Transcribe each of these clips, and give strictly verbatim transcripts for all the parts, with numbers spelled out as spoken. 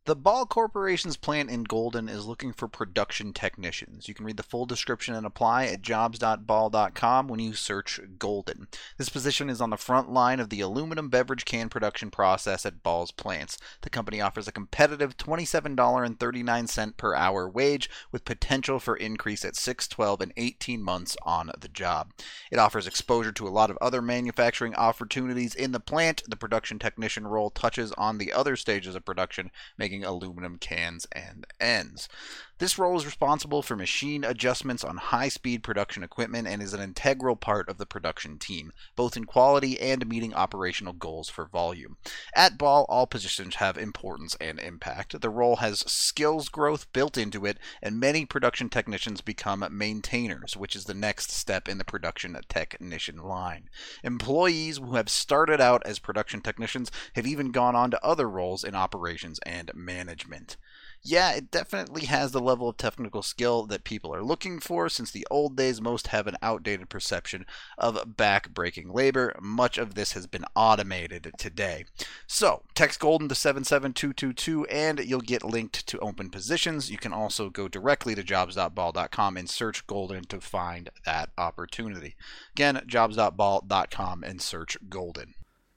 The Ball Corporation's plant in Golden is looking for production technicians. You can read the full description and apply at jobs dot ball dot com when you search Golden. This position is on the front line of the aluminum beverage can production process at Ball's plants. The company offers a competitive twenty-seven dollars and thirty-nine cents per hour wage with potential for increase at six, twelve, and eighteen months on the job. It offers exposure to a lot of other manufacturing opportunities in the plant. The production technician role touches on the other stages of production, making aluminum cans and ends. This role is responsible for machine adjustments on high-speed production equipment and is an integral part of the production team, both in quality and meeting operational goals for volume. At Ball, all positions have importance and impact. The role has skills growth built into it, and many production technicians become maintainers, which is the next step in the production technician line. Employees who have started out as production technicians have even gone on to other roles in operations and management. Yeah, it definitely has the level of technical skill that people are looking for. Since the old days, most have an outdated perception of back-breaking labor. Much of this has been automated today. So, text Golden to seven seven two two two and you'll get linked to open positions. You can also go directly to jobs dot ball dot com and search Golden to find that opportunity. Again, jobs dot ball dot com and search Golden.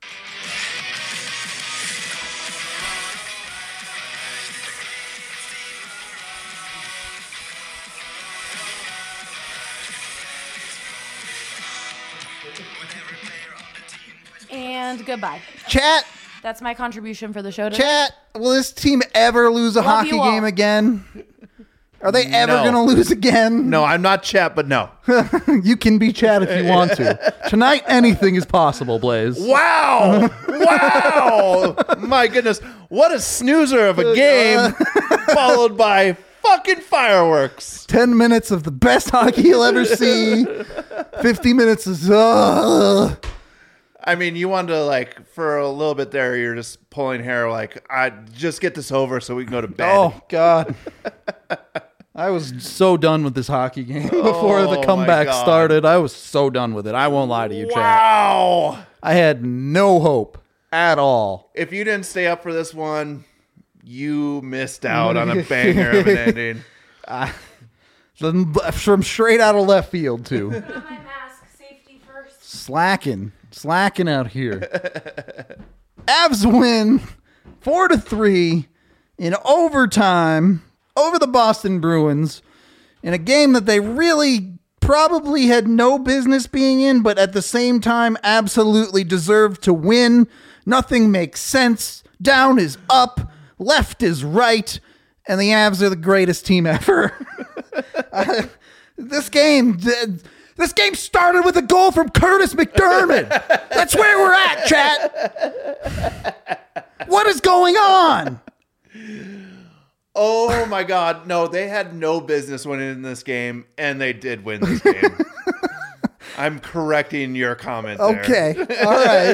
And goodbye. Chat. That's my contribution for the show today. Chat. Will this team ever lose a Love hockey you all. game again? Are they ever No. going to lose again? No, I'm not Chat, but no. You can be Chat if you want to. Tonight, anything is possible, Blaze. Wow. Wow. My goodness. What a snoozer of a game followed by fucking fireworks. Ten minutes of the best hockey you'll ever see. Fifty minutes is... Uh, I mean, you wanted to, like, for a little bit there, you're just pulling hair, like, I just get this over so we can go to bed. oh, God. I was so done with this hockey game before Oh, the my comeback God. started. I was so done with it. I won't lie to you, Chat. Wow. I had no hope at all. If you didn't stay up for this one, you missed out on a banger of an ending. From from straight out of left field, too. Got my mask. Safety first. Slacking. Slacking out here. Avs win four to three in overtime over the Boston Bruins in a game that they really probably had no business being in, but at the same time absolutely deserved to win. Nothing makes sense. Down is up. Left is right. And the Avs are the greatest team ever. uh, this game... This game started with a goal from Curtis McDermott. That's where we're at, chat. What is going on? Oh, my God. No, they had no business winning this game, and they did win this game. I'm correcting your comment there. Okay. All right.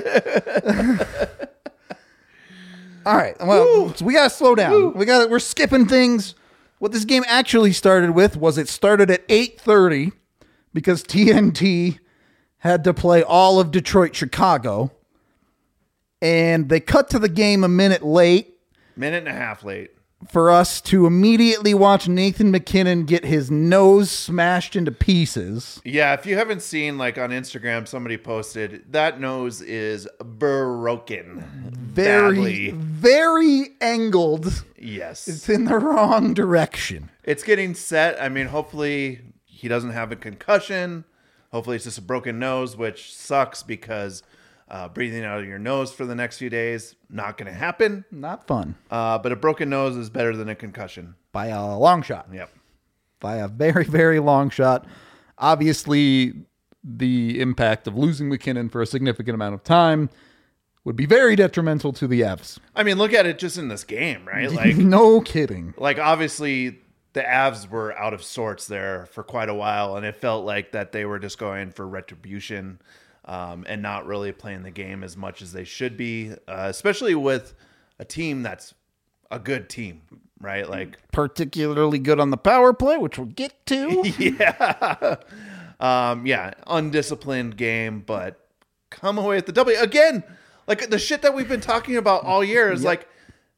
All right. Well, so we got to slow down. Woo. We got we're skipping things. What this game actually started with was it started at eight thirty. Because T N T had to play all of Detroit, Chicago. And they cut to the game a minute late. Minute and a half late. For us to immediately watch Nathan McKinnon get his nose smashed into pieces. Yeah, if you haven't seen, like, on Instagram, somebody posted, that nose is broken. Very, Badly. very angled. Yes. It's in the wrong direction. It's getting set. I mean, hopefully... he doesn't have a concussion. Hopefully it's just a broken nose, which sucks because uh, breathing out of your nose for the next few days, not going to happen. Not fun. Uh, but a broken nose is better than a concussion. By a long shot. Yep. By a very, very long shot. Obviously, the impact of losing McKinnon for a significant amount of time would be very detrimental to the Avs. I mean, look at it just in this game, right? Like, no kidding. like obviously... the Avs were out of sorts there for quite a while, and it felt like that they were just going for retribution um, and not really playing the game as much as they should be, uh, especially with a team that's a good team, right? Like Particularly good on the power play, which we'll get to. yeah, um, yeah, undisciplined game, but come away with the W again. Like the shit that we've been talking about all year is Yep. like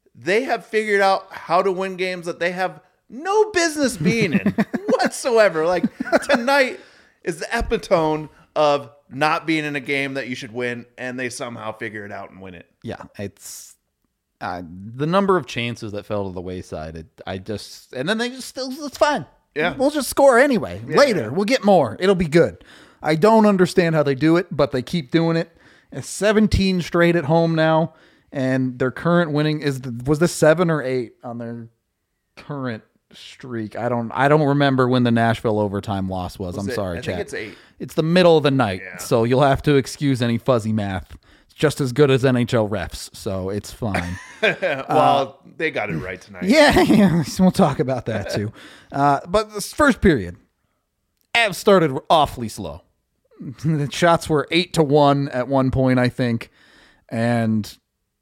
they have figured out how to win games that they have no business being in whatsoever. Like tonight is the epitome of not being in a game that you should win, and they somehow figure it out and win it. Yeah, it's uh, the number of chances that fell to the wayside. It, I just and then they just still it's fine. Yeah. We'll just score anyway. Yeah, Later, yeah. we'll get more. It'll be good. I don't understand how they do it, but they keep doing it. It's seventeen straight at home now, and their current winning is the, was this seven or eight on their current streak. I don't I don't remember when the Nashville overtime loss was. Was I'm it- sorry, I chat. think it's eight. It's the middle of the night, Yeah. so you'll have to excuse any fuzzy math. It's just as good as N H L refs, so it's fine. Well, they got it right tonight. Yeah, yeah, we'll talk about that too. Uh, but this first period, Avs started awfully slow. The shots were eight to one at one point, I think, and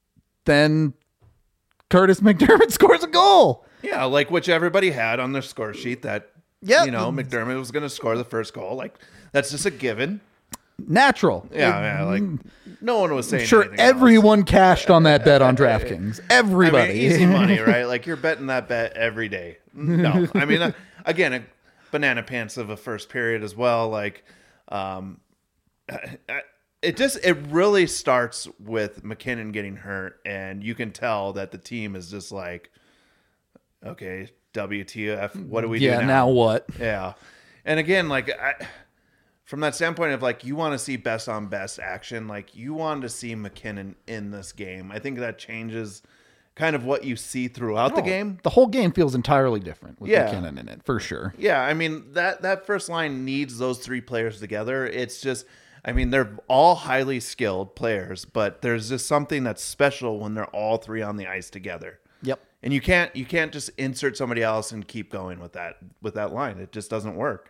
then Curtis McDermott scores a goal. Yeah, like which everybody had on their score sheet that, Yep. you know, McDermott was going to score the first goal. Like, that's just a given. Natural. Yeah, yeah, like, no one was saying I'm sure anything else. everyone cashed on that bet on DraftKings. I Everybody. mean, easy money, right? Like, you're betting that bet every day. No, I mean, uh, again, a banana pants of a first period as well. Like, um, I- I- it just, it really starts with McKinnon getting hurt, and you can tell that the team is just like, okay, W T F, what do we yeah, do now? now what? Yeah. And again, like, I, from that standpoint of like, you want to see best on best action, like, you want to see McKinnon in this game. I think that changes kind of what you see throughout the Oh, game. The whole game feels entirely different with Yeah. McKinnon in it, for sure. Yeah. I mean, that, that first line needs those three players together. It's just, I mean, they're all highly skilled players, but there's just something that's special when they're all three on the ice together. Yep. And you can't you can't just insert somebody else and keep going with that with that line. It just doesn't work.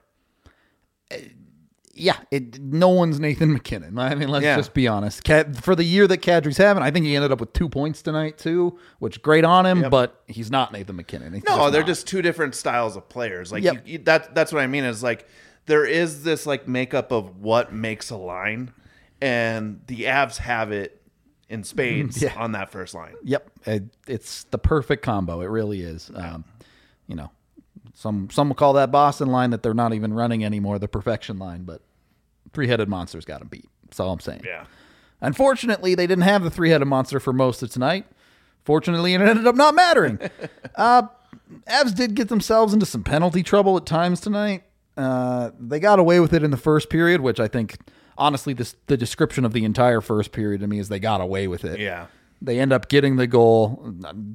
Yeah, it, no one's Nathan McKinnon. I mean, let's Yeah. just be honest. Cad, for the year that Kadri's having, I think he ended up with two points tonight too, which great on him. Yep. But he's not Nathan McKinnon. He's No, they're not. just two different styles of players. Like Yep. you, you, that that's what I mean is like there is this like makeup of what makes a line, and the Avs have it in spades Yeah. on that first line. Yep, it, it's the perfect combo. It really is. Um, you know, some some will call that Boston line that they're not even running anymore the perfection line, but three-headed monster's got them beat. That's all I'm saying. Yeah. Unfortunately, they didn't have the three-headed monster for most of tonight. Fortunately, it ended up not mattering. uh, Avs did get themselves into some penalty trouble at times tonight. Uh, they got away with it in the first period, which I think, honestly, this the description of the entire first period to me is they got away with it. Yeah. They end up getting the goal.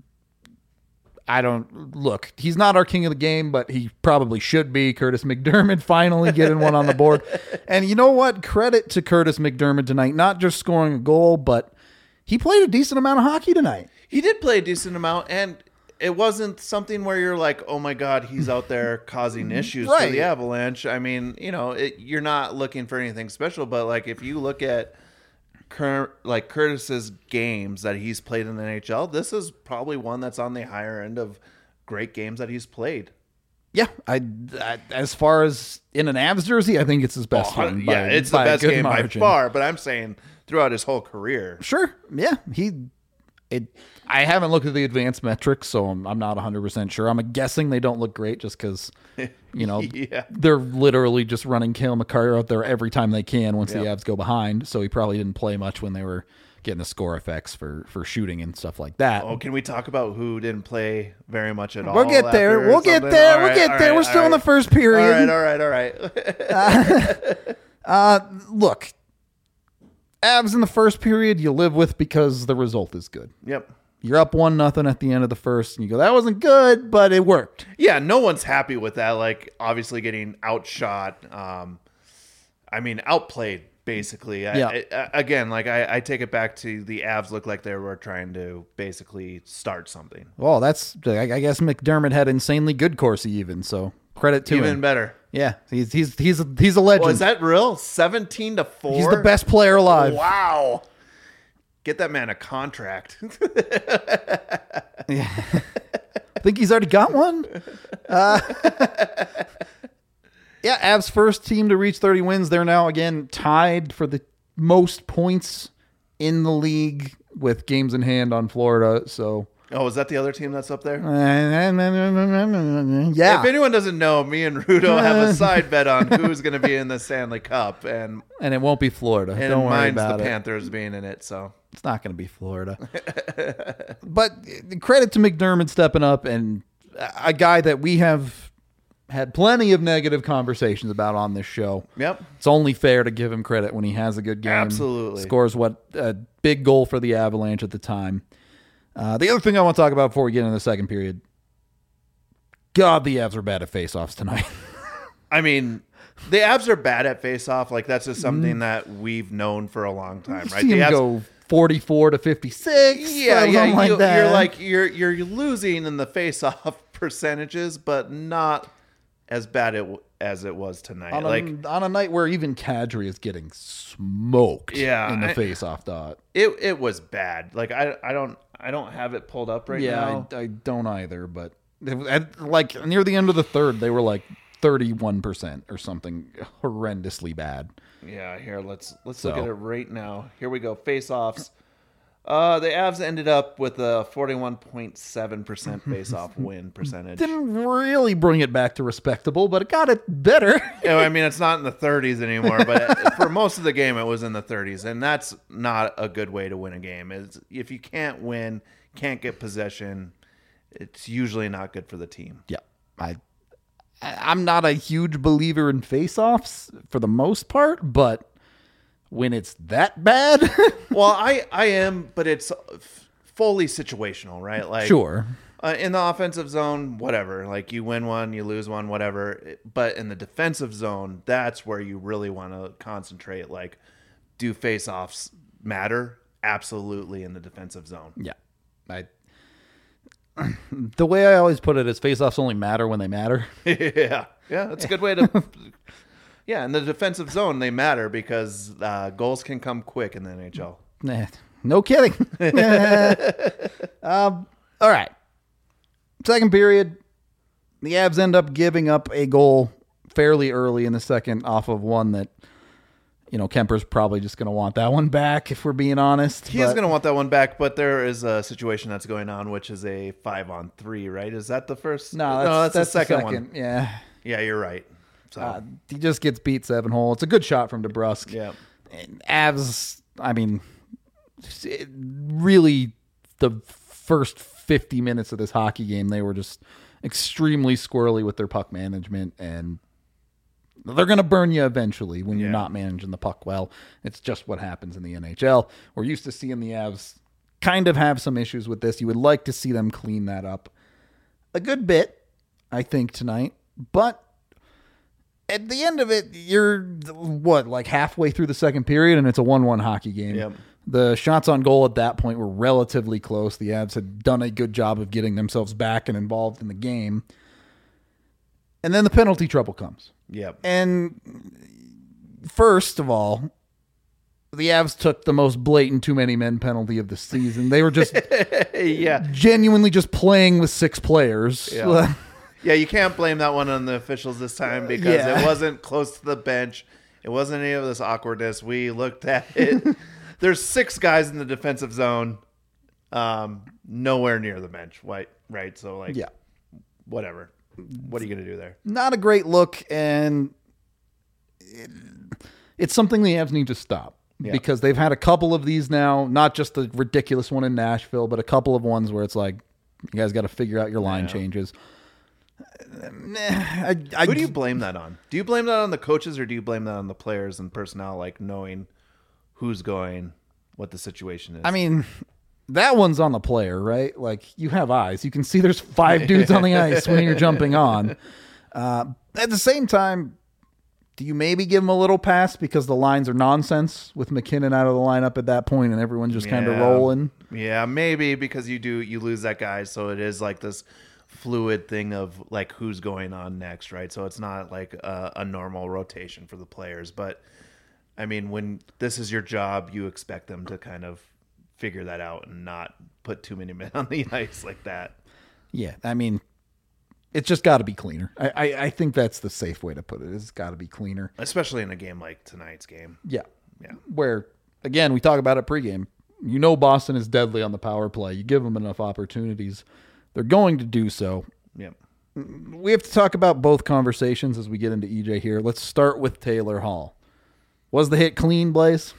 I don't look. He's not our king of the game, but he probably should be. Curtis McDermott finally getting one on the board. And you know what? Credit to Curtis McDermott tonight, not just scoring a goal, but he played a decent amount of hockey tonight. He did play a decent amount, and it wasn't something where you're like, oh my God, he's out there causing issues for Right. the Avalanche. I mean, you know, it, you're not looking for anything special, but like if you look at Cur- like Curtis's games that he's played in the N H L, this is probably one that's on the higher end of great games that he's played. Yeah, I, I as far as in an Avs jersey, I think it's his best Oh, one. by- yeah, it's the by a best good game margin. by far, but I'm saying throughout his whole career. Sure. Yeah. He, it, I haven't looked at the advanced metrics, so I'm, I'm not one hundred percent sure. I'm guessing they don't look great just because, you know, Yeah. they're literally just running Cale Makar out there every time they can once the Yep. Avs go behind. So he probably didn't play much when they were getting the score effects for, for shooting and stuff like that. Oh, can we talk about who didn't play very much at all? We'll get there. after We'll get something? there. All We'll right, get all there. right, We're still all in the right. first period. All right, all right, all right. Uh, look, Avs in the first period you live with because the result is good. Yep. You're up one nothing at the end of the first, and you go, that wasn't good, but it worked. Yeah, no one's happy with that. Like, obviously getting outshot. Um, I mean, outplayed, basically. I- Yeah. I, I, again, like, I, I take it back to the Avs look like they were trying to basically start something. Well, that's I I guess McDermott had insanely good Corsi even, so credit to Even him. better. Yeah, he's he's he's a, he's a legend. Oh, is that real? seventeen to four? He's the best player alive. Wow. Get that man a contract. I think he's already got one. Uh, yeah, Avs first team to reach thirty wins. They're now again tied for the most points in the league with games in hand on Florida. So Oh, is that the other team that's up there? Yeah. If anyone doesn't know, me and Rudo have a side bet on who's going to be in the Stanley Cup, and And it won't be Florida. and Don't worry mine's about the it. Panthers being in it. So It's not going to be Florida. But credit to McDermott stepping up, and a guy that we have had plenty of negative conversations about on this show. yep, It's only fair to give him credit when he has a good game. Absolutely. Scores what a big goal for the Avalanche at the time. Uh, the other thing I want to talk about before we get into the second period, God, the Avs are bad at faceoffs tonight. I mean, the Avs are bad at face-off. Like that's just Mm. something that we've known for a long time, right? See The him Avs- go forty-four to fifty-six. yeah, something yeah. like you, that. You're like you're you're losing in the face-off percentages, but not as bad it, as it was tonight. on a, like on a night where even Kadri is getting smoked Yeah, in the I- face-off dot. it it was bad. Like I I don't I don't have it pulled up right Yeah, now. I, I don't either, but it- at, like near the end of the third, they were like thirty-one percent or something horrendously bad. Yeah, here let's let's So. look at it right now. Here we go. Face-offs. Uh, the Avs ended up with a forty-one point seven percent face-off win percentage. Didn't really bring it back to respectable, but it got it better. You know, I mean, it's not in the thirties anymore, but for most of the game, it was in the thirties, and that's not a good way to win a game. Is if you can't win, can't get possession, it's usually not good for the team. Yeah, I, I- I'm not a huge believer in face-offs for the most part, but when it's that bad, Well, I I am, but it's f- fully situational, right? Like sure. Uh, in the offensive zone, whatever. Like you win one, you lose one, whatever. But in the defensive zone, that's where you really want to concentrate. Like, do face-offs matter? Absolutely, in the defensive zone. Yeah, I. The way I always put it is face-offs only matter when they matter. yeah, yeah, that's a good way to. Yeah, in the defensive zone, they matter because uh, goals can come quick in the N H L. Nah, no kidding. um, all right. Second period, the Avs end up giving up a goal fairly early in the second off of one that, you know, Kemper's probably just going to want that one back, if we're being honest. He is but- going to want that one back, but there is a situation that's going on, which is a five on three, right? Is that the first? No, that's, that's the second, one. Yeah. Yeah, you're right. So, Uh, he just gets beat seven hole. It's a good shot from DeBrusque. yeah. And Avs, I mean, it really the first fifty minutes of this hockey game, they were just extremely squirrely with their puck management, and they're going to burn you eventually when you're Yeah. not managing the puck well. It's just what happens in the N H L. We're used to seeing the Avs kind of have some issues with this. You would like to see them clean that up a good bit, I think, tonight. But at the end of it, you're, what, like halfway through the second period, and it's a one one hockey game. Yep. The shots on goal at that point were relatively close. The Avs had done a good job of getting themselves back and involved in the game. And then the penalty trouble comes. Yep. And first of all, the Avs took the most blatant too many men penalty of the season. They were just yeah. genuinely just playing with six players. Yeah. Yeah, you can't blame that one on the officials this time because Yeah. it wasn't close to the bench. It wasn't any of this awkwardness. We looked at it. There's six guys in the defensive zone, um, nowhere near the bench. Right, right. So like, Yeah. whatever. What are you gonna do there? Not a great look, and it, it's something the Avs need to stop. Yeah. Because they've had a couple of these now, not just the ridiculous one in Nashville, but a couple of ones where it's like, you guys got to figure out your line Yeah. changes. Nah, I, I, Who do you blame that on? Do you blame that on the coaches or do you blame that on the players and personnel, like knowing who's going, what the situation is? I mean, that one's on the player, right? Like, you have eyes. You can see there's five dudes on the ice when you're jumping on. Uh, at the same time, do you maybe give them a little pass because the lines are nonsense with McKinnon out of the lineup at that point and everyone's just kind of Yeah. rolling? Yeah, maybe because you do you lose that guy, so it is like this fluid thing of like who's going on next, right? So it's not like a, a normal rotation for the players. But I mean, when this is your job, you expect them to kind of figure that out and not put too many men on the ice like that. Yeah, I mean, it's just got to be cleaner. I, I, I think that's the safe way to put it. It's got to be cleaner. Especially in a game like tonight's game. Yeah. Yeah. Where, again, we talk about it pregame. You know Boston is deadly on the power play. You give them enough opportunities, they're going to do so. Yep. We have to talk about both conversations as we get into E J here. Let's start with Taylor Hall. Was the hit clean, Blaze?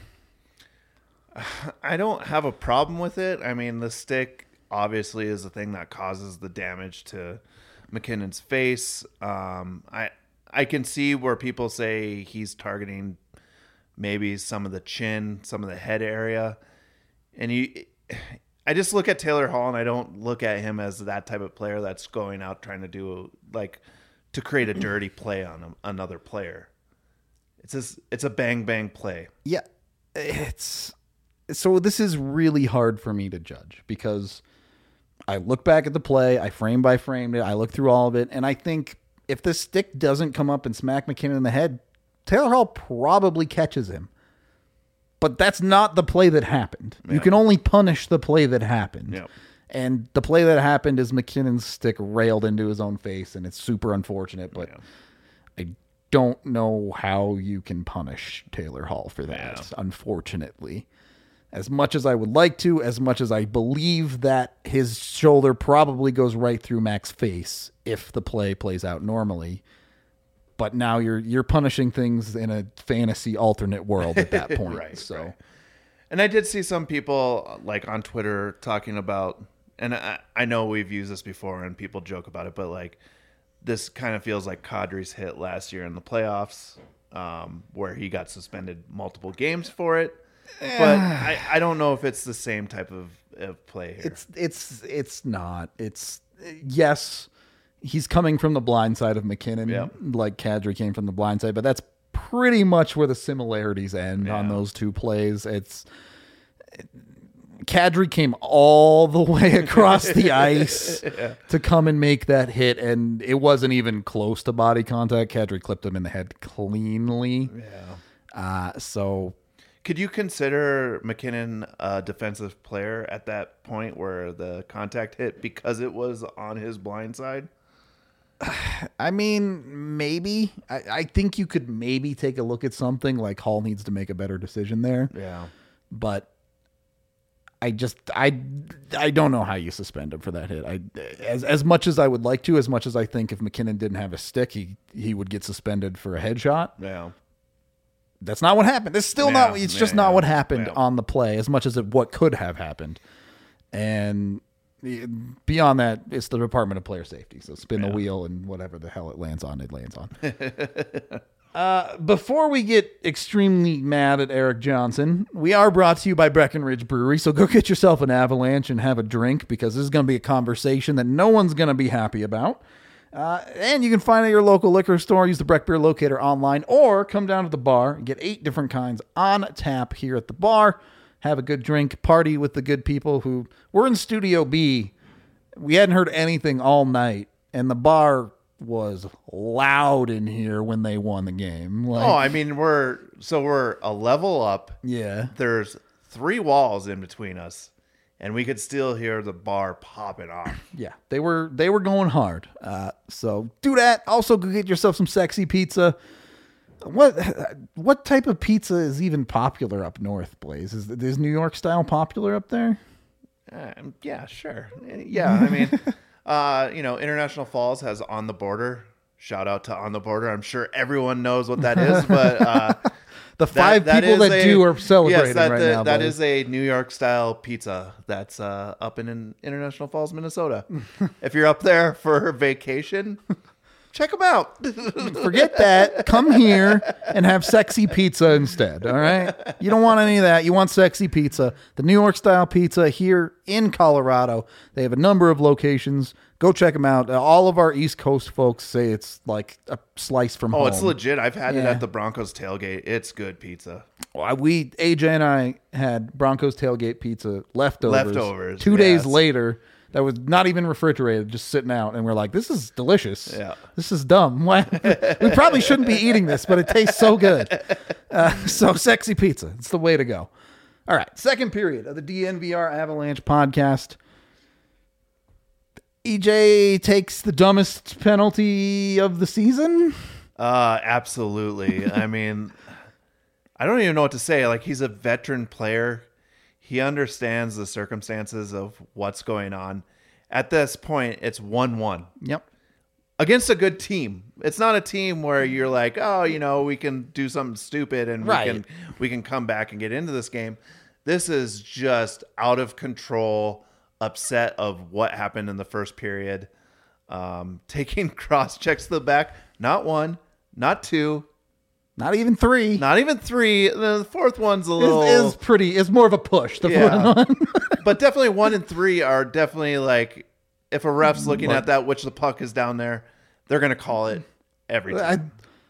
I don't have a problem with it. I mean, the stick obviously is the thing that causes the damage to McKinnon's face. Um, I I can see where people say he's targeting maybe some of the chin, some of the head area. And you, I just look at Taylor Hall and I don't look at him as that type of player that's going out trying to do like to create a dirty play on a, another player. It's just, it's a bang bang play. Yeah, it's so this is really hard for me to judge because I look back at the play, I frame by frame it, I look through all of it, and I think if the stick doesn't come up and smack McKinnon in the head, Taylor Hall probably catches him. But that's not the play that happened. Yeah. You can only punish the play that happened. Yep. And the play that happened is McKinnon's stick railed into his own face, and it's super unfortunate, but Yeah. I don't know how you can punish Taylor Hall for that, Yeah. unfortunately. As much as I would like to, as much as I believe that his shoulder probably goes right through Mac's face if the play plays out normally. But now you're you're punishing things in a fantasy alternate world at that point. Right, so, right. And I did see some people like on Twitter talking about, and I, I know we've used this before and people joke about it, but like this kind of feels like Kadri's hit last year in the playoffs, um, where he got suspended multiple games for it. But I, I don't know if it's the same type of, of play here. It's it's it's not. It's yes, he's coming from the blind side of McKinnon, Yeah. like Kadri came from the blind side, but that's pretty much where the similarities end on Yeah. those two plays. It's Kadri came all the way across the ice Yeah. to come and make that hit, and it wasn't even close to body contact. Kadri clipped him in the head cleanly. Yeah. Uh, so Could you consider McKinnon a defensive player at that point where the contact hit because it was on his blind side? I mean, maybe. I, I think you could maybe take a look at something like Hall needs to make a better decision there. Yeah. But I just I I don't know how you suspend him for that hit. I as as much as I would like to, as much as I think if McKinnon didn't have a stick, he he would get suspended for a headshot. Yeah. That's not what happened. It's still Yeah, not. It's just yeah, not yeah, what happened yeah. on the play, as much as it, what could have happened. And beyond that, it's the Department of Player Safety. So spin the Yeah. wheel and whatever the hell it lands on, it lands on. uh, before we get extremely mad at Eric Johnson, we are brought to you by Breckenridge Brewery. So go get yourself an Avalanche and have a drink, because this is going to be a conversation that no one's going to be happy about. Uh, and you can find it at your local liquor store. Use the Breck Beer Locator online, or come down to the bar and get eight different kinds on tap here at the bar. Have a good drink, party with the good people who we're in Studio B. We hadn't heard anything all night, and the bar was loud in here when they won the game. Like, Oh, I mean, we're so we're a level up. yeah. There's three walls in between us, and we could still hear the bar popping off. Yeah, they were they were going hard. Uh, so do that. Also, go get yourself some sexy pizza. What what type of pizza is even popular up north, Blaze? Is is New York style popular up there? Um, yeah, sure. Yeah, I mean, uh, you know, International Falls has On the Border. Shout out to On the Border. I'm sure everyone knows what that is, but uh, The five that people is that a- do are celebrating yes, that, right that- now. That Blaze. is a New York style pizza that's uh, up in, in International Falls, Minnesota. If you're up there for vacation, check them out. Forget that. Come here and have sexy pizza instead. All right. You don't want any of that. You want sexy pizza. The New York style pizza here in Colorado. They have a number of locations. Go check them out. Uh, all of our East Coast folks say it's like a slice from Oh, home. it's legit. I've had it Yeah. at the Broncos tailgate. It's good pizza. Well, we A J and I had Broncos tailgate pizza leftovers. Leftovers, Two days yes. later, that was not even refrigerated, just sitting out, and we're like, "This is delicious. Yeah. This is dumb. Why? We probably shouldn't be eating this, but it tastes so good." Uh, so sexy pizza, it's the way to go. All right, second period of the D N V R Avalanche podcast. E J takes the dumbest penalty of the season. Uh, absolutely. I mean, I don't even know what to say. Like, he's a veteran player. He understands the circumstances of what's going on. At this point, it's one one. Yep. Against a good team. It's not a team where you're like, oh, you know, we can do something stupid and Right. we can we can come back and get into this game. This is just out of control, upset of what happened in the first period. Um, taking cross checks to the back. Not one, not two, Not even three. not even three. The fourth one's a little is, is pretty. It's more of a push. The Yeah. fourth one. but definitely one and three are definitely like, if a ref's looking Look. at that, which the puck is down there, they're going to call it every time.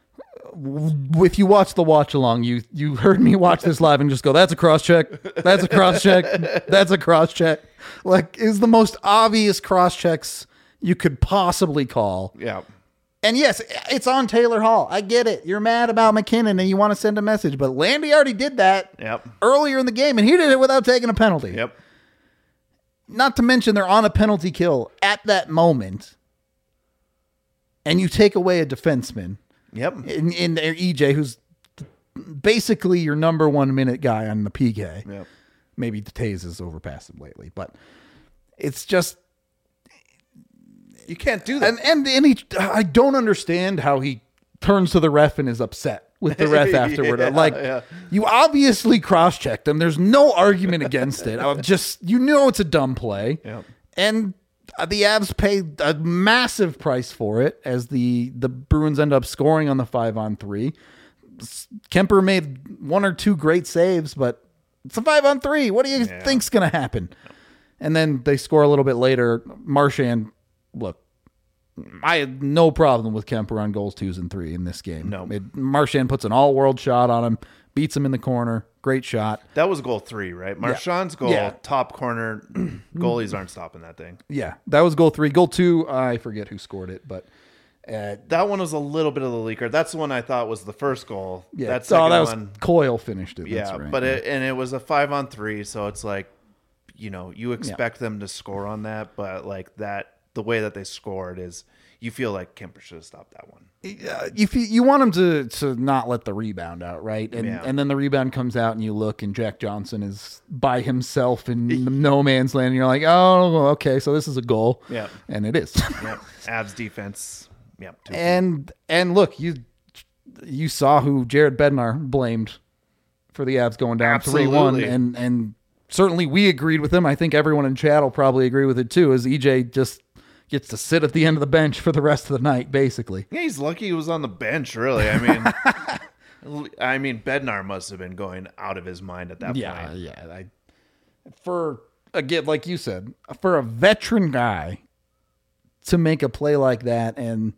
I, if you watch the watch along, you you heard me watch this live and just go, "That's a cross check. That's a cross check. That's a cross check." Like, is the most obvious cross checks you could possibly call. Yeah. And yes, it's on Taylor Hall. I get it. You're mad about McKinnon and you want to send a message, but Landy already did that Yep. earlier in the game, and he did it without taking a penalty. Yep. Not to mention they're on a penalty kill at that moment, and you take away a defenseman Yep. in, in there, E J, who's basically your number one minute guy on the P K. Yep. Maybe Taze has overpassed him lately, but it's just You can't do that. and and and he, I don't understand how he turns to the ref and is upset with the ref afterward. Yeah, like yeah. you obviously cross-checked him. There's no argument against it. I'm just you know it's a dumb play, Yep. and uh, the Avs paid a massive price for it as the the Bruins end up scoring on the five on three. Kemper made one or two great saves, but it's a five on three. What do you Yeah. think's going to happen? And then they score a little bit later. Marchand, look, I had no problem with Kemper on goals twos and three in this game. No. It, Marchand puts an all-world shot on him, beats him in the corner. Great shot. That was goal three, right? Marchand's goal, Yeah. top corner. Goalies aren't stopping that thing. Yeah, that was goal three. Goal two, I forget who scored it, but uh, That one was a little bit of the leaker. That's the one I thought was the first goal. yeah, That oh, second that was one, Coyle finished it. yeah. That's right. But it and it was a five on three, so it's like, you know, you expect them to score on that, but like that, the way that they scored is, you feel like Kemper should have stopped that one. Uh, you feel, you want him to to not let the rebound out, right? And Yeah. and then the rebound comes out, and you look, and Jack Johnson is by himself in no man's land. And you're like, oh, okay, so this is a goal. Yeah. And it is. Yep. Avs defense. Yep. two- and and look, you you saw who Jared Bednar blamed for the Avs going down three one, Absolutely. and and certainly we agreed with him. I think everyone in chat will probably agree with it too. As E J just gets to sit at the end of the bench for the rest of the night, basically. Yeah, he's lucky he was on the bench, really. I mean, I mean, Bednar must have been going out of his mind at that Yeah, point. yeah. I, for again, like you said, for a veteran guy to make a play like that, and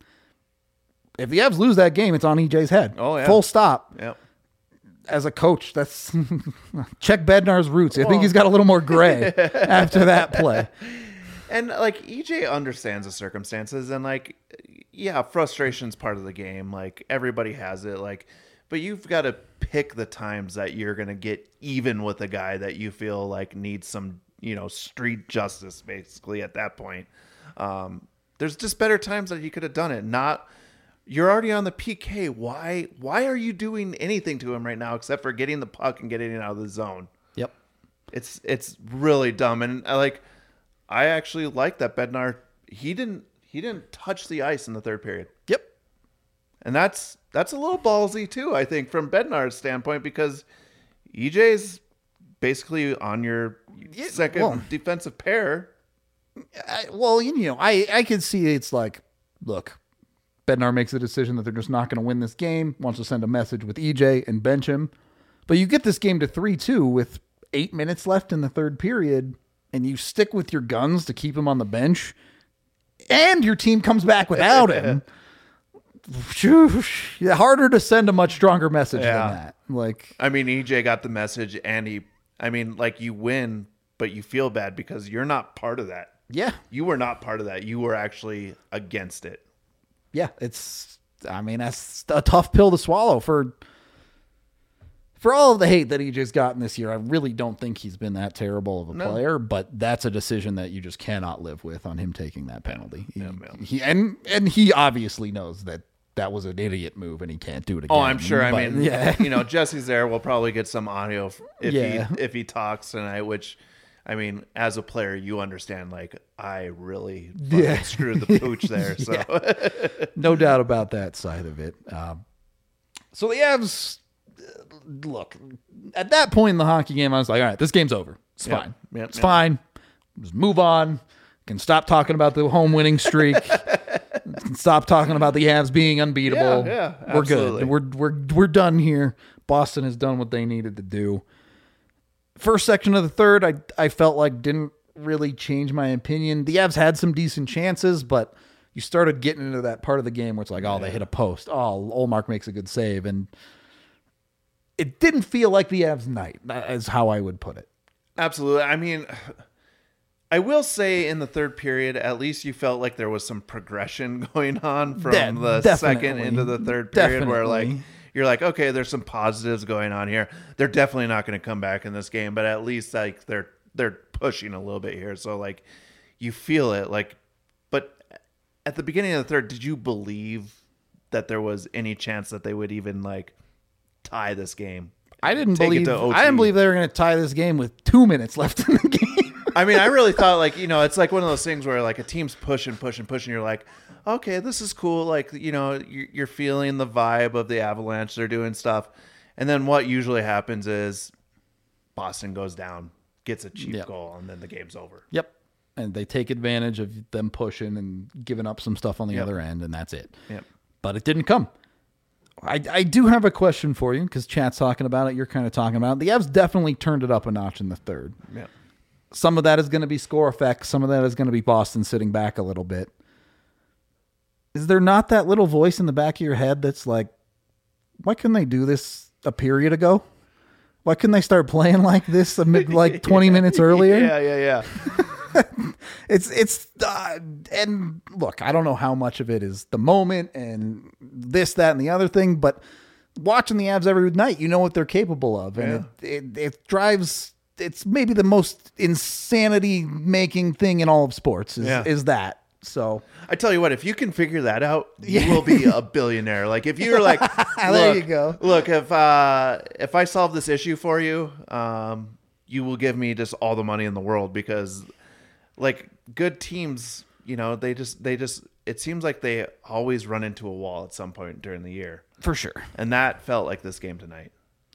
if the Avs lose that game, it's on E J's head. Oh, yeah. Full stop. Yep. As a coach, that's check Bednar's roots. I think he's got a little more gray after that play. And like E J understands the circumstances, and like, yeah, frustration's part of the game. Like everybody has it. Like, but you've got to pick the times that you're gonna get even with a guy that you feel like needs some, you know, street justice. Basically, at that point, um, there's just better times that you could have done it. Not you're already on the P K. Why? Why are you doing anything to him right now except for getting the puck and getting it out of the zone? Yep. It's it's really dumb, and I like. I actually like that Bednar. He didn't. He didn't touch the ice in the third period, Yep. and that's that's a little ballsy too. I think from Bednar's standpoint, because E J's basically on your second well- defensive pair. I, well, you know, I, I can see it's like, look, Bednar makes a decision that they're just not going to win this game, wants to send a message with E J and bench him. But you get this game to three two with eight minutes left in the third period, and you stick with your guns to keep him on the bench, and your team comes back without him. Phew, harder to send a much stronger message Yeah. than that. Like, I mean, E J got the message, and he. I mean, like you win, but you feel bad because you're not part of that. yeah, You were not part of that. You were actually against it. yeah, it's, I mean, that's a tough pill to swallow for, for all of the hate that E J's gotten this year. I really don't think he's been that terrible of a No. player, but that's a decision that you just cannot live with on him taking that penalty. He, Yeah, yeah. he- and, and he obviously knows that that was an idiot move and he can't do it again. Oh, I'm sure. I But, mean, yeah. you know, Jesse's there. We'll probably get some audio if if Yeah. he if he talks tonight. Which, I mean, as a player, you understand. Like, I really fucking Yeah. screwed the pooch there. So No doubt about that side of it. Um, so the Avs, uh, look, at that point in the hockey game, I was like, all right, this game's over. It's Yep. fine. Yep. It's Yep. fine. Just move on. Can stop talking about the home winning streak. Can stop talking about the Avs being unbeatable. Yeah, yeah, we're absolutely. good. We're we're we're done here. Boston has done what they needed to do. First section of the third, I I felt like didn't really change my opinion. The Avs had some decent chances, but you started getting into that part of the game where it's like, oh, they hit a post. Oh, Olmark makes a good save. And it didn't feel like the Avs night, is how I would put it. absolutely. I mean, I will say in the third period, at least you felt like there was some progression going on from De- the definitely. second into the third period, where like Definitely. you're like, okay, there's some positives going on here. They're definitely not going to come back in this game, but at least like they're they're pushing a little bit here. So like you feel it. Like, but at the beginning of the third, did you believe that there was any chance that they would even like tie this game? I didn't Take it believe to O T. I didn't believe they were going to tie this game with two minutes left in the game. I mean, I really thought like, you know, it's like one of those things where like a team's pushing, pushing, pushing. You're like, okay, this is cool. Like, you know, you're, you're feeling the vibe of the Avalanche. They're doing stuff. And then what usually happens is Boston goes down, gets a cheap Yep. goal, and then the game's over. Yep. And they take advantage of them pushing and giving up some stuff on the Yep. other end, and that's it. Yep. But it didn't come. I, I do have a question for you because chat's talking about it. You're kind of talking about it. The Avs definitely turned it up a notch in the third. Yeah. Some of that is going to be score effects. Some of that is going to be Boston sitting back a little bit. Is there not that little voice in the back of your head that's like, why couldn't they do this a period ago? Why couldn't they start playing like this amid, like twenty minutes earlier? Yeah, yeah, yeah. It's it's uh, and look, I don't know how much of it is the moment and this, that, and the other thing, but watching the Avs every night, you know what they're capable of, and it, it it drives. It's maybe the most insanity making thing in all of sports is Yeah. is that. So I tell you what, if you can figure that out, you will be a billionaire. Like if you're like, There look, you go. Look, if uh, if I solve this issue for you, um, you will give me just all the money in the world because, like, good teams, you know, they just they just it seems like they always run into a wall at some point during the year, for sure, and that felt like this game tonight.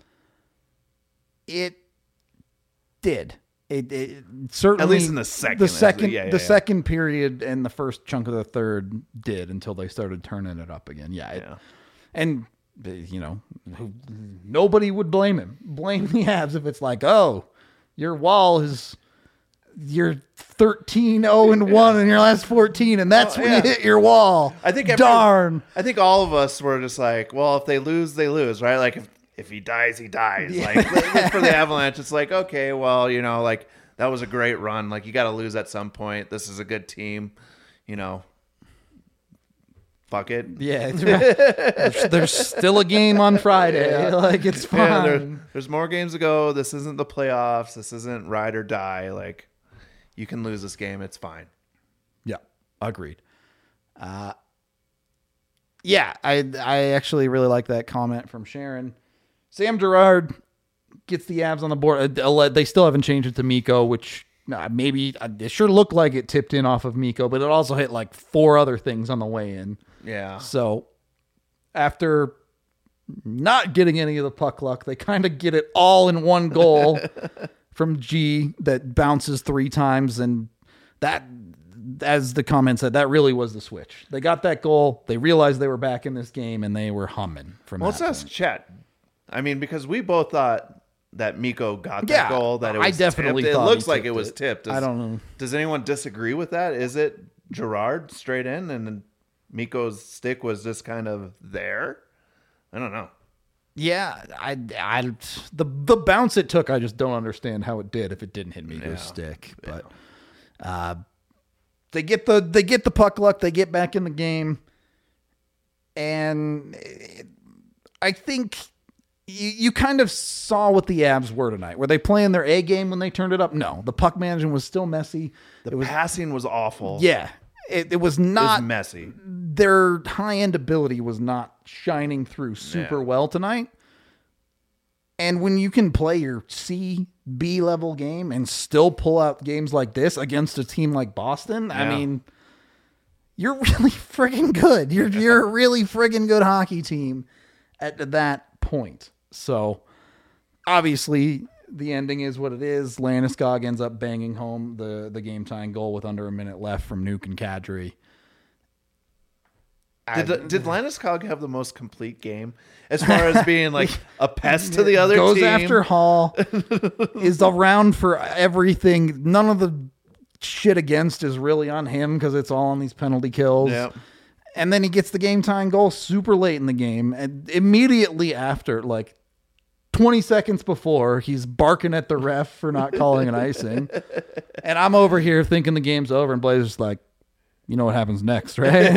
it did. It, it certainly, At least in the second. the second, Yeah, yeah, the yeah. second period and the first chunk of the third did until they started turning it up again. Yeah, it, Yeah. and you know, who- nobody would blame him. Blame the Avs if it's like, oh, your wall is you're thirteen oh and one in your last fourteen, and that's Oh, when yeah. you hit your wall. I think every- darn. I think all of us were just like, well, if they lose, they lose, right? Like if, if he dies, he dies. Like for the Avalanche, it's like, okay, well, you know, like that was a great run. Like you got to lose at some point. This is a good team, you know. Fuck it. Yeah, it's right. there's, there's still a game on Friday. Like it's fine. Yeah, there, there's more games to go. This isn't the playoffs. This isn't ride or die. Like you can lose this game. It's fine. Yeah, agreed. Uh, yeah, I I actually really like that comment from Sharon. Sam Girard gets the Avs on the board. Uh, They still haven't changed it to Mikko, which uh, maybe uh, it sure looked like it tipped in off of Mikko, but it also hit like four other things on the way in. Yeah. So after not getting any of the puck luck, they kind of get it all in one goal from G that bounces three times. And that, as the comment said, that really was the switch. They got that goal. They realized they were back in this game and they were humming from Well, that let's ask point. Chet. I mean, because we both thought that Mikko got that Yeah, goal. That it was I definitely tipped. It thought looks he like it tipped was it. tipped. Does, I don't know. Does anyone disagree with that? Is it Gerard straight in and then Mikko's stick was just kind of there? I don't know. Yeah, I, I, the the bounce it took, I just don't understand how it did if it didn't hit Mikko's Yeah. stick. But uh, they get the they get the puck luck, they get back in the game, and it, I think you, you kind of saw what the Avs were tonight. Were they playing their A game when they turned it up? No, the puck management was still messy. The it was passing was awful. yeah, it, it was It was not messy. their high end ability was not shining through super Yeah. well tonight. And when you can play your C, B level game and still pull out games like this against a team like Boston, I Yeah. mean, you're really friggin' good. You're you're a really friggin' good hockey team at that point. So obviously the ending is what it is. Landeskog ends up banging home the, the game tying goal with under a minute left from Nuke and Kadri. Did, did Landeskog have the most complete game as far as being like a pest to the other Goes team? after Hall, is around for everything. None of the shit against is really on him because it's all on these penalty kills. Yeah. And then he gets the game tying goal super late in the game. And immediately after, like twenty seconds before, he's barking at the ref for not calling an icing. And I'm over here thinking the game's over, and Blazer's like, you know what happens next, right?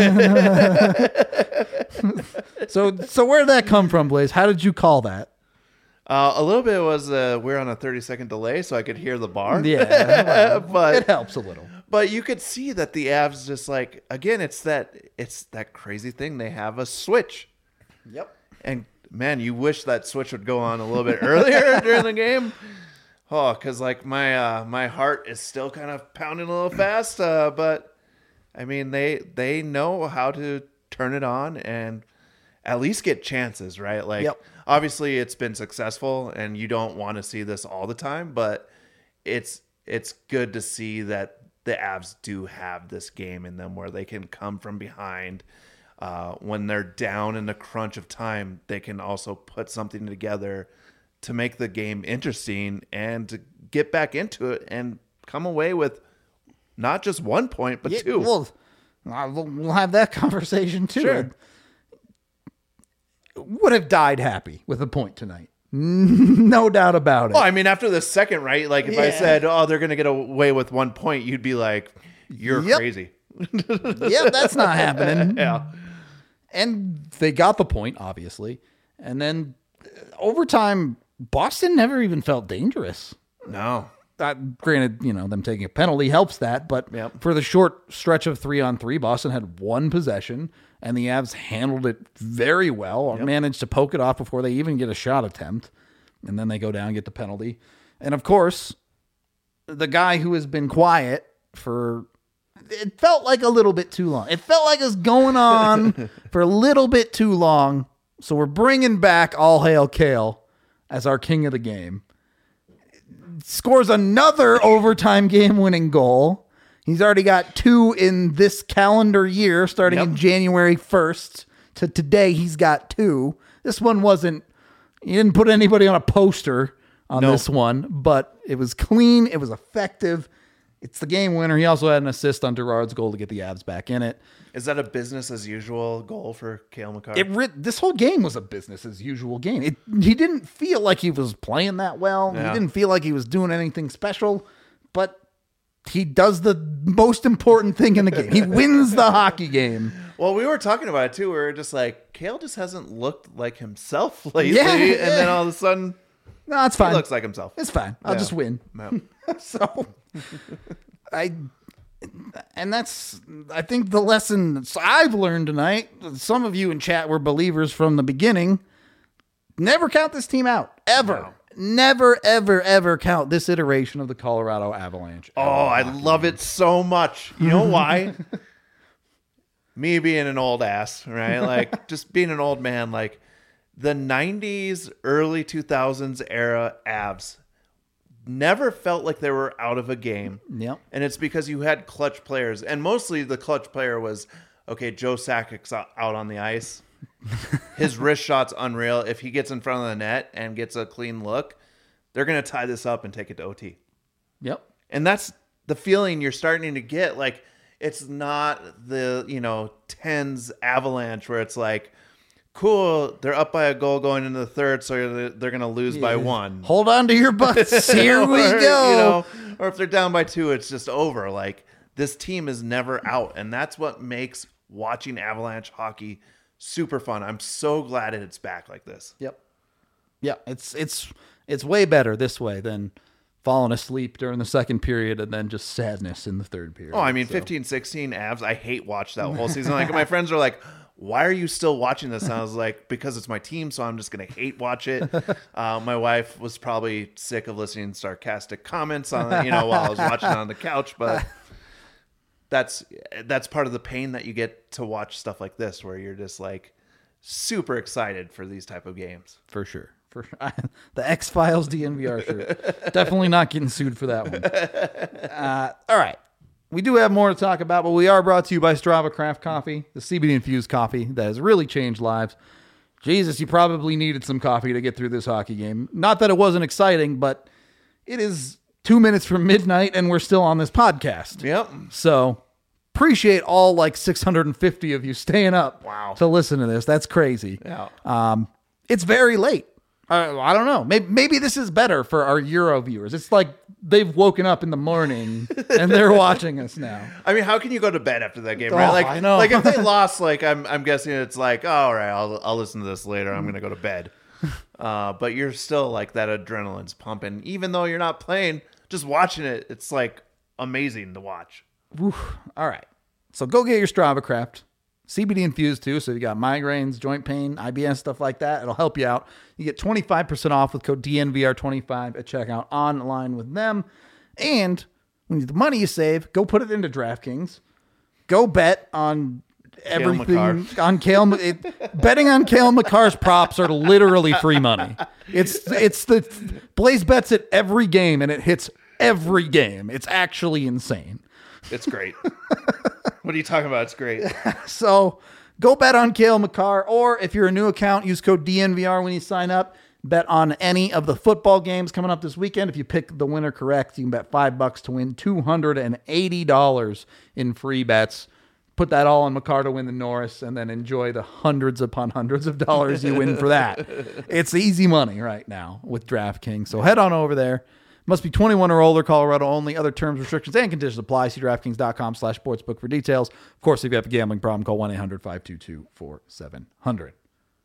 so so where did that come from, Blaze? How did you call that? Uh, a little bit was uh, we're on a thirty second delay, so I could hear the bar. Yeah, well, but it helps a little. But you could see that the Avs just like again, it's that it's that crazy thing. They have a switch, Yep. and man, you wish that switch would go on a little bit earlier during the game. Oh, because like my uh, my heart is still kind of pounding a little fast. Uh, but I mean, they they know how to turn it on and at least get chances, right? Like, Yep. obviously, it's been successful, and you don't want to see this all the time, but it's it's good to see that the Avs do have this game in them where they can come from behind. Uh, when they're down in the crunch of time, they can also put something together to make the game interesting and to get back into it and come away with not just one point, but Yeah, two. well, uh, we'll we'll have that conversation too. Sure. Would have died happy with a point tonight. No doubt about it. Well, I mean, after the second, right? Like, if I Yeah. said, oh, they're going to get away with one point, you'd be like, you're Yep. crazy. Yep, that's not happening. Yeah. And they got the point, obviously. And then uh, overtime, Boston never even felt dangerous. No. Uh, granted, you know, them taking a penalty helps that, but Yep. for the short stretch of three on three, Boston had one possession, and the Avs handled it very well, managed to poke it off before they even get a shot attempt, and then they go down and get the penalty. And of course, the guy who has been quiet for, it felt like a little bit too long. It felt like it was going on for a little bit too long, so we're bringing back All Hail Kale as our king of the game. Scores another overtime game-winning goal. He's already got two in this calendar year, starting Yep. in January first to today. He's got two. This one wasn't. He didn't put anybody on a poster on No. this one, but it was clean. It was effective. It's the game winner. He also had an assist on Gerard's goal to get the Avs back in it. Is that a business as usual goal for Cale McCarr? It re- this whole game was a business as usual game. It he didn't feel like he was playing that well. Yeah. He didn't feel like he was doing anything special, but he does the most important thing in the game. He wins the hockey game. Well, we were talking about it too. We were just like, Cale just hasn't looked like himself lately. Yeah, and yeah. then all of a sudden, No, it's he fine. looks like himself. It's fine. I'll Yeah. just win. No. So I and that's I think the lesson I've learned tonight. Some of you in chat were believers from the beginning. Never count this team out ever. No. Never, ever, ever count this iteration of the Colorado Avalanche. Oh, I love it so much. You know why? Me being an old ass, right? Like, just being an old man. Like, the nineties, early two thousands era Avs never felt like they were out of a game. Yep. And it's because you had clutch players. And mostly the clutch player was, okay, Joe Sakic's out out on the ice. His wrist shot's unreal. If he gets in front of the net and gets a clean look, they're going to tie this up and take it to O T. Yep. And that's the feeling you're starting to get. Like, it's not the, you know, tens Avalanche where it's like, cool, they're up by a goal going into the third, so they're going to lose by one. Hold on to your butts. Here we Or, go. You know, or if they're down by two, it's just over. Like, this team is never out. And that's what makes watching Avalanche hockey super fun. I'm so glad it's back like this. Yep. Yeah, it's it's it's way better this way than falling asleep during the second period, and then just sadness in the third period. Oh, I mean, So- fifteen sixteen Avs, I hate watch that whole season. Like, my friends are like, why are you still watching this? And I was like, because it's my team, so I'm just going to hate watch it. Uh, my wife was probably sick of listening to sarcastic comments on it, you know, while I was watching it on the couch, but that's that's part of the pain that you get to watch stuff like this, where you're just like super excited for these type of games. For sure. For sure. The X-Files D N V R shirt. Definitely not getting sued for that one. Uh, all right. We do have more to talk about, but we are brought to you by Strava Craft Coffee, the C B D-infused coffee that has really changed lives. Jesus, you probably needed some coffee to get through this hockey game. Not that it wasn't exciting, but it is two minutes from midnight, and we're still on this podcast. Yep. So appreciate all like six hundred fifty of you staying up Wow. to listen to this. That's crazy. Yeah. Um, it's very late. Uh, I don't know. Maybe, maybe this is better for our Euro viewers. It's like they've woken up in the morning and they're watching us now. I mean, how can you go to bed after that game, Oh, right? Like, I know. like if they lost, like I'm, I'm guessing it's like, oh, all right, I'll, I'll listen to this later. I'm gonna go to bed. Uh, but you're still like that adrenaline's pumping, even though you're not playing. Just watching it, it's like amazing to watch. Whew. All right. So go get your Strava Craft. C B D infused too. So you got migraines, joint pain, I B S, stuff like that. It'll help you out. You get twenty-five percent off with code D N V R twenty-five at checkout online with them. And when you, the money you save, go put it into DraftKings. Go bet on everything McCarr. on Kale. It, betting on Kale McCarr's props are literally free money. It's it's the Blaze bets at every game and it hits every game. It's actually insane. It's great. What are you talking about? It's great. So go bet on Kale McCarr, or if you're a new account, use code D N V R when you sign up. Bet on any of the football games coming up this weekend. If you pick the winner correct, you can bet five bucks to win two hundred eighty dollars in free bets. Put that all on McCarr to win the Norris, and then enjoy the hundreds upon hundreds of dollars you win for that. It's easy money right now with DraftKings. So head on over there. Must be twenty-one or older, Colorado only. Other terms, restrictions, and conditions apply. See DraftKings.com slash sportsbook for details. Of course, if you have a gambling problem, call one eight hundred five two two four seven zero zero.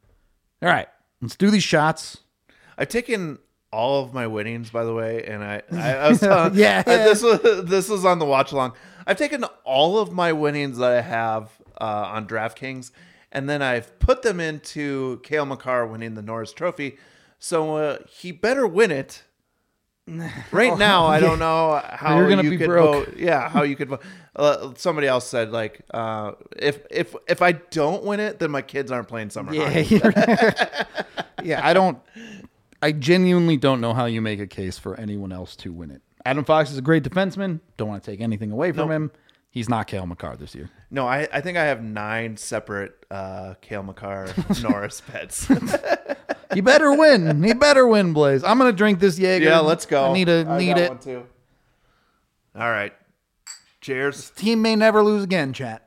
All right, let's do these shots. I've taken all of my winnings, by the way, and I, I, I was telling, Yeah. I- this was this was on the watch along. I've taken all of my winnings that I have uh, on DraftKings, and then I've put them into Kale McCarr winning the Norris Trophy. So uh, he better win it. Right now, I don't know how You're gonna you be could broke. vote. Yeah, how you could vote. Uh, somebody else said like, uh, if if if I don't win it, then my kids aren't playing summer Yeah, hockey. you're- yeah. I don't. I genuinely don't know how you make a case for anyone else to win it. Adam Fox is a great defenseman. Don't want to take anything away from Nope. him. He's not Kale McCarr this year. No, I, I think I have nine separate uh, Kale McCarr Norris bets. He better win. He better win, Blaze. I'm gonna drink this Jaeger. Yeah, let's go. I need a I need got it. one too. All right. Cheers. Team may never lose again, chat.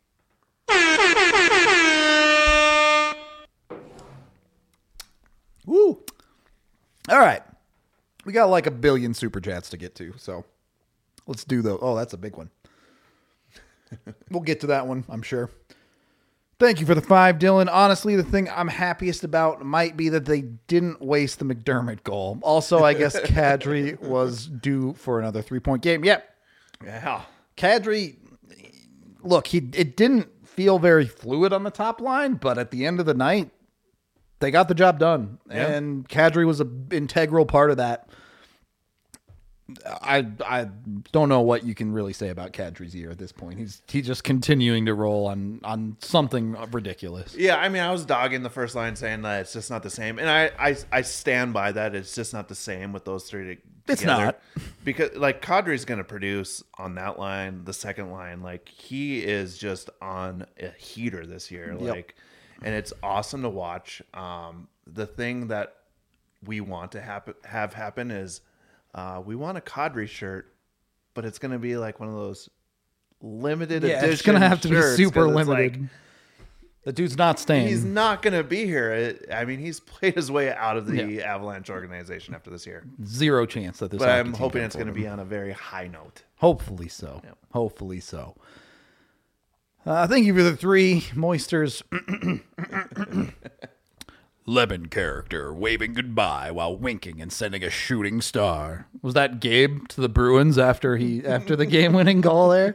Woo. All right. We got like a billion super chats to get to, so let's do those. Oh, that's a big one. We'll get to that one, I'm sure. Thank you for the five, Dylan. Honestly, the thing I'm happiest about might be that they didn't waste the McDermott goal. Also, I guess Kadri was due for another three-point game. Yep. Yeah. Kadri, look, he it didn't feel very fluid on the top line, but at the end of the night, they got the job done. Yeah. And Kadri was an integral part of that. I I don't know what you can really say about Kadri's year at this point. He's he's just continuing to roll on on something ridiculous. Yeah, I mean, I was dogging the first line saying that it's just not the same. And I, I, I stand by that. It's just not the same with those three to- It's together. not. Because, like, Kadri's going to produce on that line, the second line. Like, he is just on a heater this year. Yep. Like, and it's awesome to watch. Um, the thing that we want to happen, have happen is uh, we want a Kadri shirt, but it's going to be like one of those limited Yeah, edition it's gonna have to be shirts, super 'cause it's limited. like, The dude's not staying. he's not going to be here. It- I mean, he's played his way out of the Avalanche organization after this year. Zero chance that this. But hockey I'm team hoping can it's going to afford be him. on a very high note. Hopefully so. Yep. Hopefully so. Uh, thank you for the three moisters. Lemon character waving goodbye while winking and sending a shooting star. Was that Gabe to the Bruins after he after the game-winning goal there?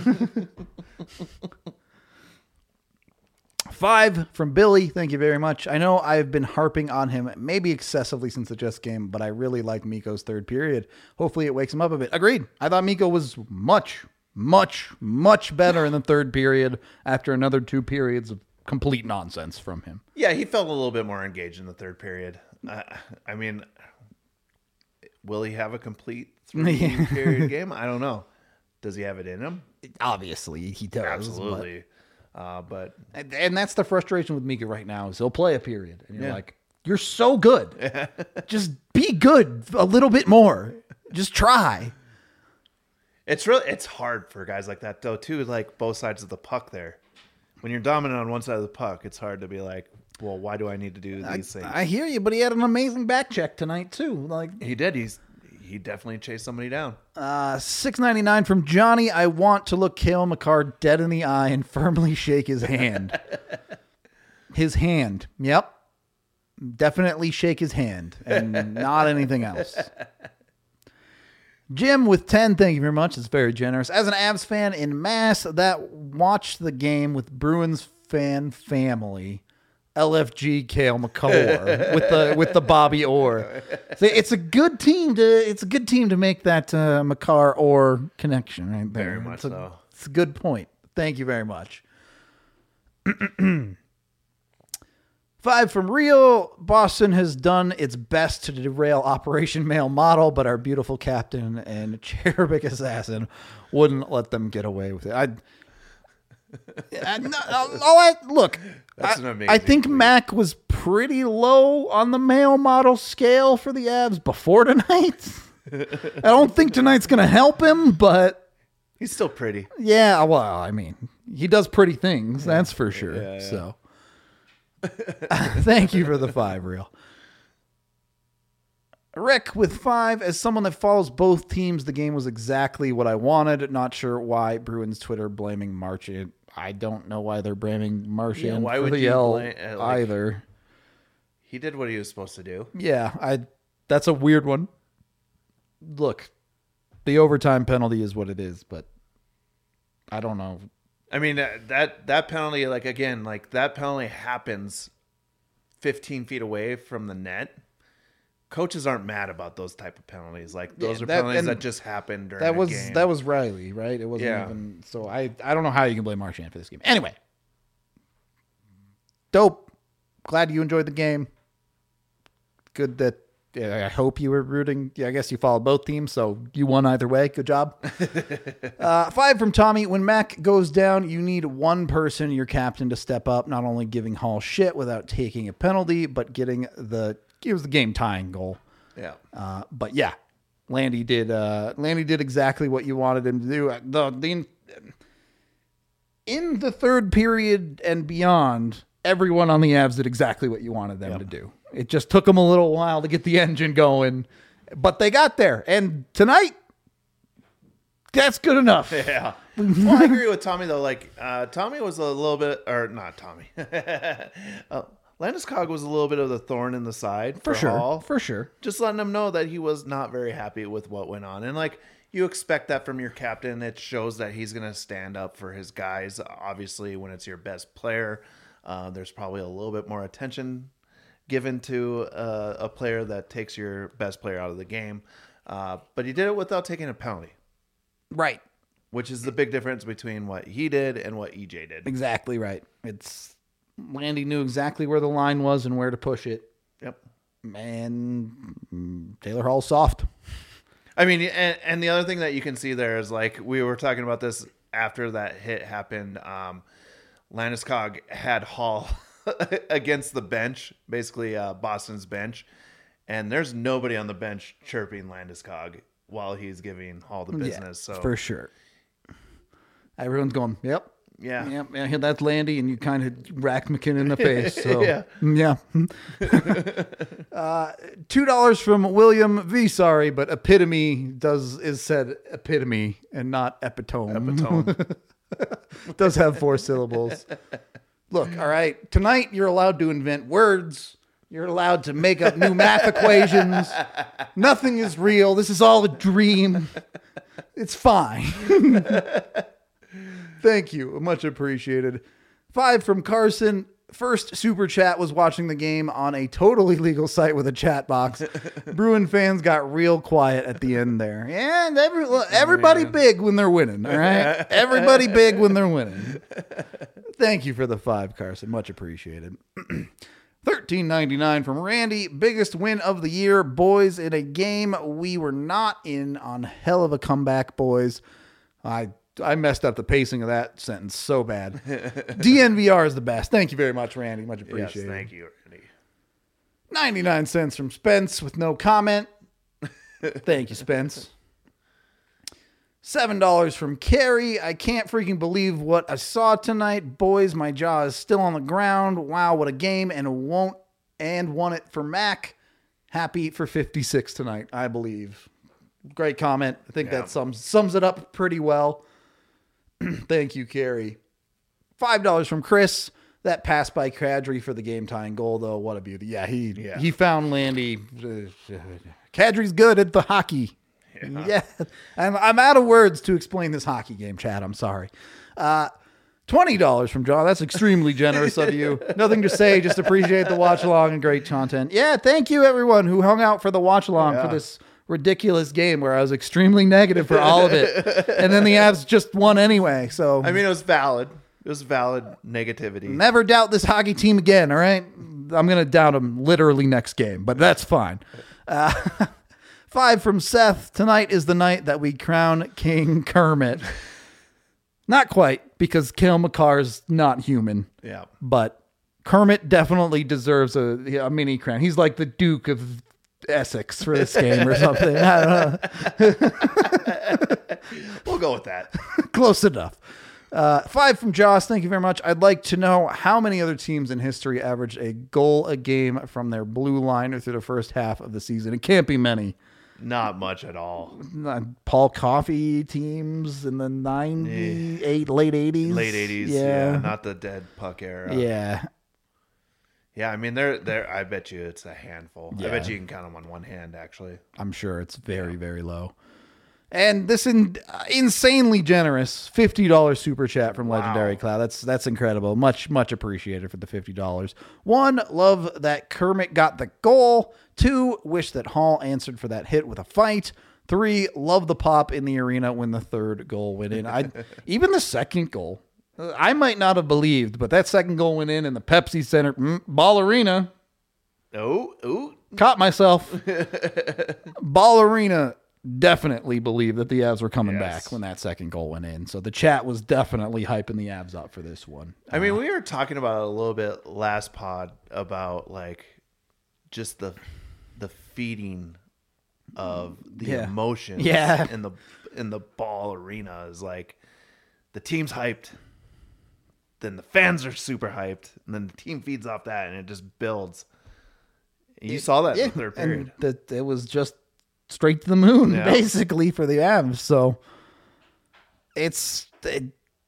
Five from Billy. Thank you very much. I know I've been harping on him maybe excessively since the Jets game, but I really like Mikko's third period. Hopefully it wakes him up a bit. Agreed. I thought Mikko was much, much, much better in the third period after another two periods of complete nonsense from him. Yeah, he felt a little bit more engaged in the third period. Uh, I mean, will he have a complete three period game? I don't know. Does he have it in him? Obviously, he does. Absolutely. Uh, but And, and that's the frustration with Mika right now is he'll play a period. And you're yeah. like, you're so good. Just be good a little bit more. Just try. It's really, it's hard for guys like that, though, too, like both sides of the puck there. When you're dominant on one side of the puck, it's hard to be like, well, why do I need to do these I, things? I hear you, but he had an amazing back check tonight, too. Like He did. He's He definitely chased somebody down. Uh, six ninety-nine from Johnny. I want to look Cale Makar dead in the eye and firmly shake his hand. His hand. Yep. Definitely shake his hand and not anything else. Jim with ten, thank you very much. It's very generous. As an Avs fan in mass that watched the game with Bruins fan family, L F G Cale McCullough with the with the Bobby Orr. So it's a good team to it's a good team to make that uh, McCarr Orr connection right there. Very much it's a, so. It's a good point. Thank you very much. Five from Real. Boston has done its best to derail Operation Male Model, but our beautiful captain and cherubic assassin wouldn't let them get away with it. I, I, no, oh, I look. That's I, an amazing I think tweet. Mac was pretty low on the male model scale for the Avs before tonight. I don't think tonight's going to help him, but He's still pretty. yeah, well, I mean, he does pretty things, that's for sure. Yeah, yeah. So, thank you for the five, Real. Rick with five. As someone that follows both teams, the game was exactly what I wanted. Not sure why Bruins Twitter blaming Marchand. I don't know why they're blaming Marchand Yeah, why for would the you L blame- uh, like- either. He did what he was supposed to do. Yeah, I. That's a weird one. Look, the overtime penalty is what it is, but I don't know. I mean, that that, that penalty, like, again, like, that penalty happens fifteen feet away from the net. Coaches aren't mad about those type of penalties. Like, those Yeah, are that- penalties and that just happen during That a was game. that was Riley, right? It wasn't Yeah. even so. I I don't know how you can blame Marchand for this game. Anyway, dope. Glad you enjoyed the game. Good that. Yeah, I hope you were rooting. Yeah, I guess you followed both teams, so you won either way. Good job. uh, five from Tommy. When Mac goes down, you need one person, your captain, to step up, not only giving Hall shit without taking a penalty, but getting the it was the game tying goal. Yeah. Uh, but yeah, Landy did. Uh, Landy did exactly what you wanted him to do. Uh, The, the in the third period and beyond, everyone on the Avs did exactly what you wanted them Yep. to do. It just took them a little while to get the engine going, but they got there. And tonight, that's good enough. Yeah. Well, I agree with Tommy, though. Like, uh, Tommy was a little bit, or not Tommy. uh, Landeskog was a little bit of the thorn in the side for, For sure. Hall. For sure. Just letting him know that he was not very happy with what went on. And, like, you expect that from your captain. It shows that he's going to stand up for his guys. Obviously, when it's your best player, uh, there's probably a little bit more attention given to uh, a player that takes your best player out of the game. Uh, but he did it without taking a penalty, Right. which is the big difference between what he did and what E J did. Exactly right. It's Landy knew exactly where the line was and where to push it. Yep. And mm, Taylor Hall's soft. I mean, and, and the other thing that you can see there is, like, we were talking about this after that hit happened. Um, Landeskog had Hall against the bench, basically uh, Boston's bench, and there's nobody on the bench chirping Landeskog while he's giving Hall the business. Yeah, so for sure. Everyone's going, yep. yeah, Yep, yeah, that's Landy, and you kind of racked McKinnon in the face. So Yeah. yeah. uh, Two dollars from William V. Sorry, but epitome does is said epitome and not epitome. Epitome. Does have four syllables. Look, all right. Tonight you're allowed to invent words. You're allowed to make up new math equations. Nothing is real. This is all a dream. It's fine. Thank you. Much appreciated. Five from Carson. First super chat was watching the game on a totally legal site with a chat box. Bruin fans got real quiet at the end there. And every, everybody big when they're winning, all right? Everybody big when they're winning. Thank you for the five, Carson. Much appreciated. thirteen ninety-nine from Randy. Biggest win of the year, boys, in a game we were not in on. Hell of a comeback, boys. I I messed up the pacing of that sentence so bad. D N V R is the best. Thank you very much, Randy. Much appreciated. Yes, thank you, Randy. ninety-nine cents from Spence with no comment. Thank you, Spence. seven dollars from Carrie. I can't freaking believe what I saw tonight. Boys, my jaw is still on the ground. Wow, what a game. And won't and won it for Mac. Happy for fifty-six tonight, I believe. Great comment. I think Yeah. that sums sums it up pretty well. Thank you, Carrie. five dollars from Chris. That pass by Kadri for the game tying goal, though. What a beauty. Yeah, he Yeah. he found Landy. Kadri's good at the hockey. Yeah. yeah. I'm, I'm out of words to explain this hockey game, Chad. I'm sorry. Uh, twenty dollars from John. That's extremely generous of you. Nothing to say. Just appreciate the watch along and great content. Yeah, thank you, everyone who hung out for the watch along Yeah. for this ridiculous game where I was extremely negative for all of it. And then the Avs just won anyway. So I mean, it was valid. It was valid negativity. never doubt this hockey team again, all right? I'm going to doubt them literally next game, but that's fine. Uh, five from Seth. Tonight is the night that we crown King Kermit. Not quite, because Cale Makar's not human, Yeah. but Kermit definitely deserves a, a mini crown. He's like the Duke of Essex for this game or something. I don't know. We'll go with that. Close enough. Uh, five from Joss. Thank you very much. I'd like to know how many other teams in history average a goal a game from their blue line or through the first half of the season. It can't be many. Not much at all. Uh, Paul Coffey teams in the ninety-eight, late eighties. Late eighties. Yeah. Yeah. Not the dead puck era. Yeah. Yeah. I mean, they're, they're, I bet you it's a handful. I Yeah. bet you can count them on one hand, actually. I'm sure it's very, very low. And this in, uh, insanely generous fifty dollars super chat from Legendary Wow. Cloud. That's that's incredible. Much, much appreciated for the fifty dollars. One, love that Kermit got the goal. Two, wish that Hall answered for that hit with a fight. Three, love the pop in the arena when the third goal went in. I even the second goal, uh, I might not have believed, but that second goal went in in the Pepsi Center mm, Ball Arena. Oh, ooh. Caught myself. Ball Arena. Definitely believe that the Avs were coming Yes. back when that second goal went in. So the chat was definitely hyping the Avs up for this one. I mean, we were talking about it a little bit last pod about like just the the feeding of the Yeah. emotions Yeah. in the in the Ball Arena is like the team's hyped, then the fans are super hyped, and then the team feeds off that and it just builds. You saw that in the third period. And that it was just straight to the moon, Yeah. basically, for the Avs. So it's it,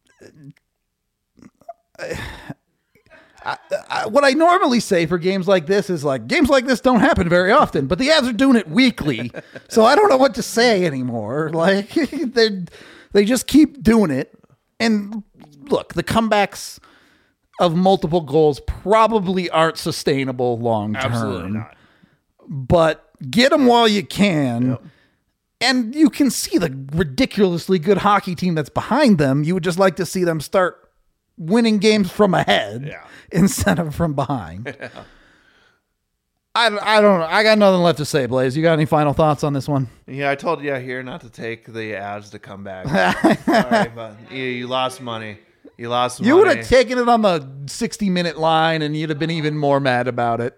I, I, what I normally say for games like this is like games like this don't happen very often, but the Avs are doing it weekly, so I don't know what to say anymore. Like they they just keep doing it, and look, the comebacks of multiple goals probably aren't sustainable long term. Absolutely not. But get them while you can. And you can see the ridiculously good hockey team that's behind them. You would just like to see them start winning games from ahead Yeah. instead of from behind. I, I don't know. I got nothing left to say, Blaze. You got any final thoughts on this one? Yeah, I told you here not to take the ads to come back. Sorry, but you, you lost money. You lost You money. would have taken it on the sixty minute line and you'd have been even more mad about it.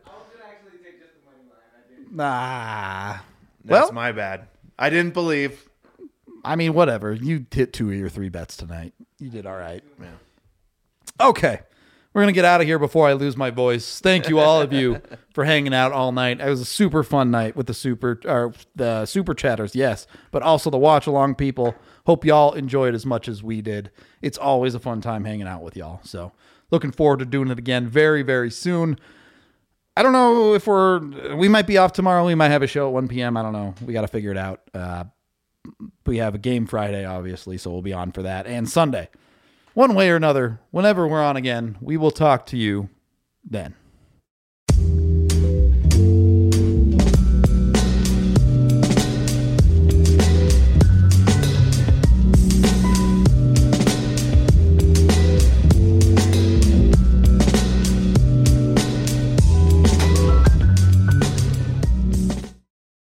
Nah. That's well, my bad. I didn't believe. I mean, whatever. You hit two of your three bets tonight. You did all right. Okay. We're going to get out of here before I lose my voice. Thank you, all of you, for hanging out all night. It was a super fun night with the super or the super chatters, yes, but also the watch along people. Hope y'all enjoyed as much as we did. It's always a fun time hanging out with y'all. So looking forward to doing it again very, very soon. I don't know if we're, we might be off tomorrow. We might have a show at one p.m. I don't know. We got to figure it out. Uh, we have a game Friday, obviously, so we'll be on for that. And Sunday. One way or another, whenever we're on again, we will talk to you then.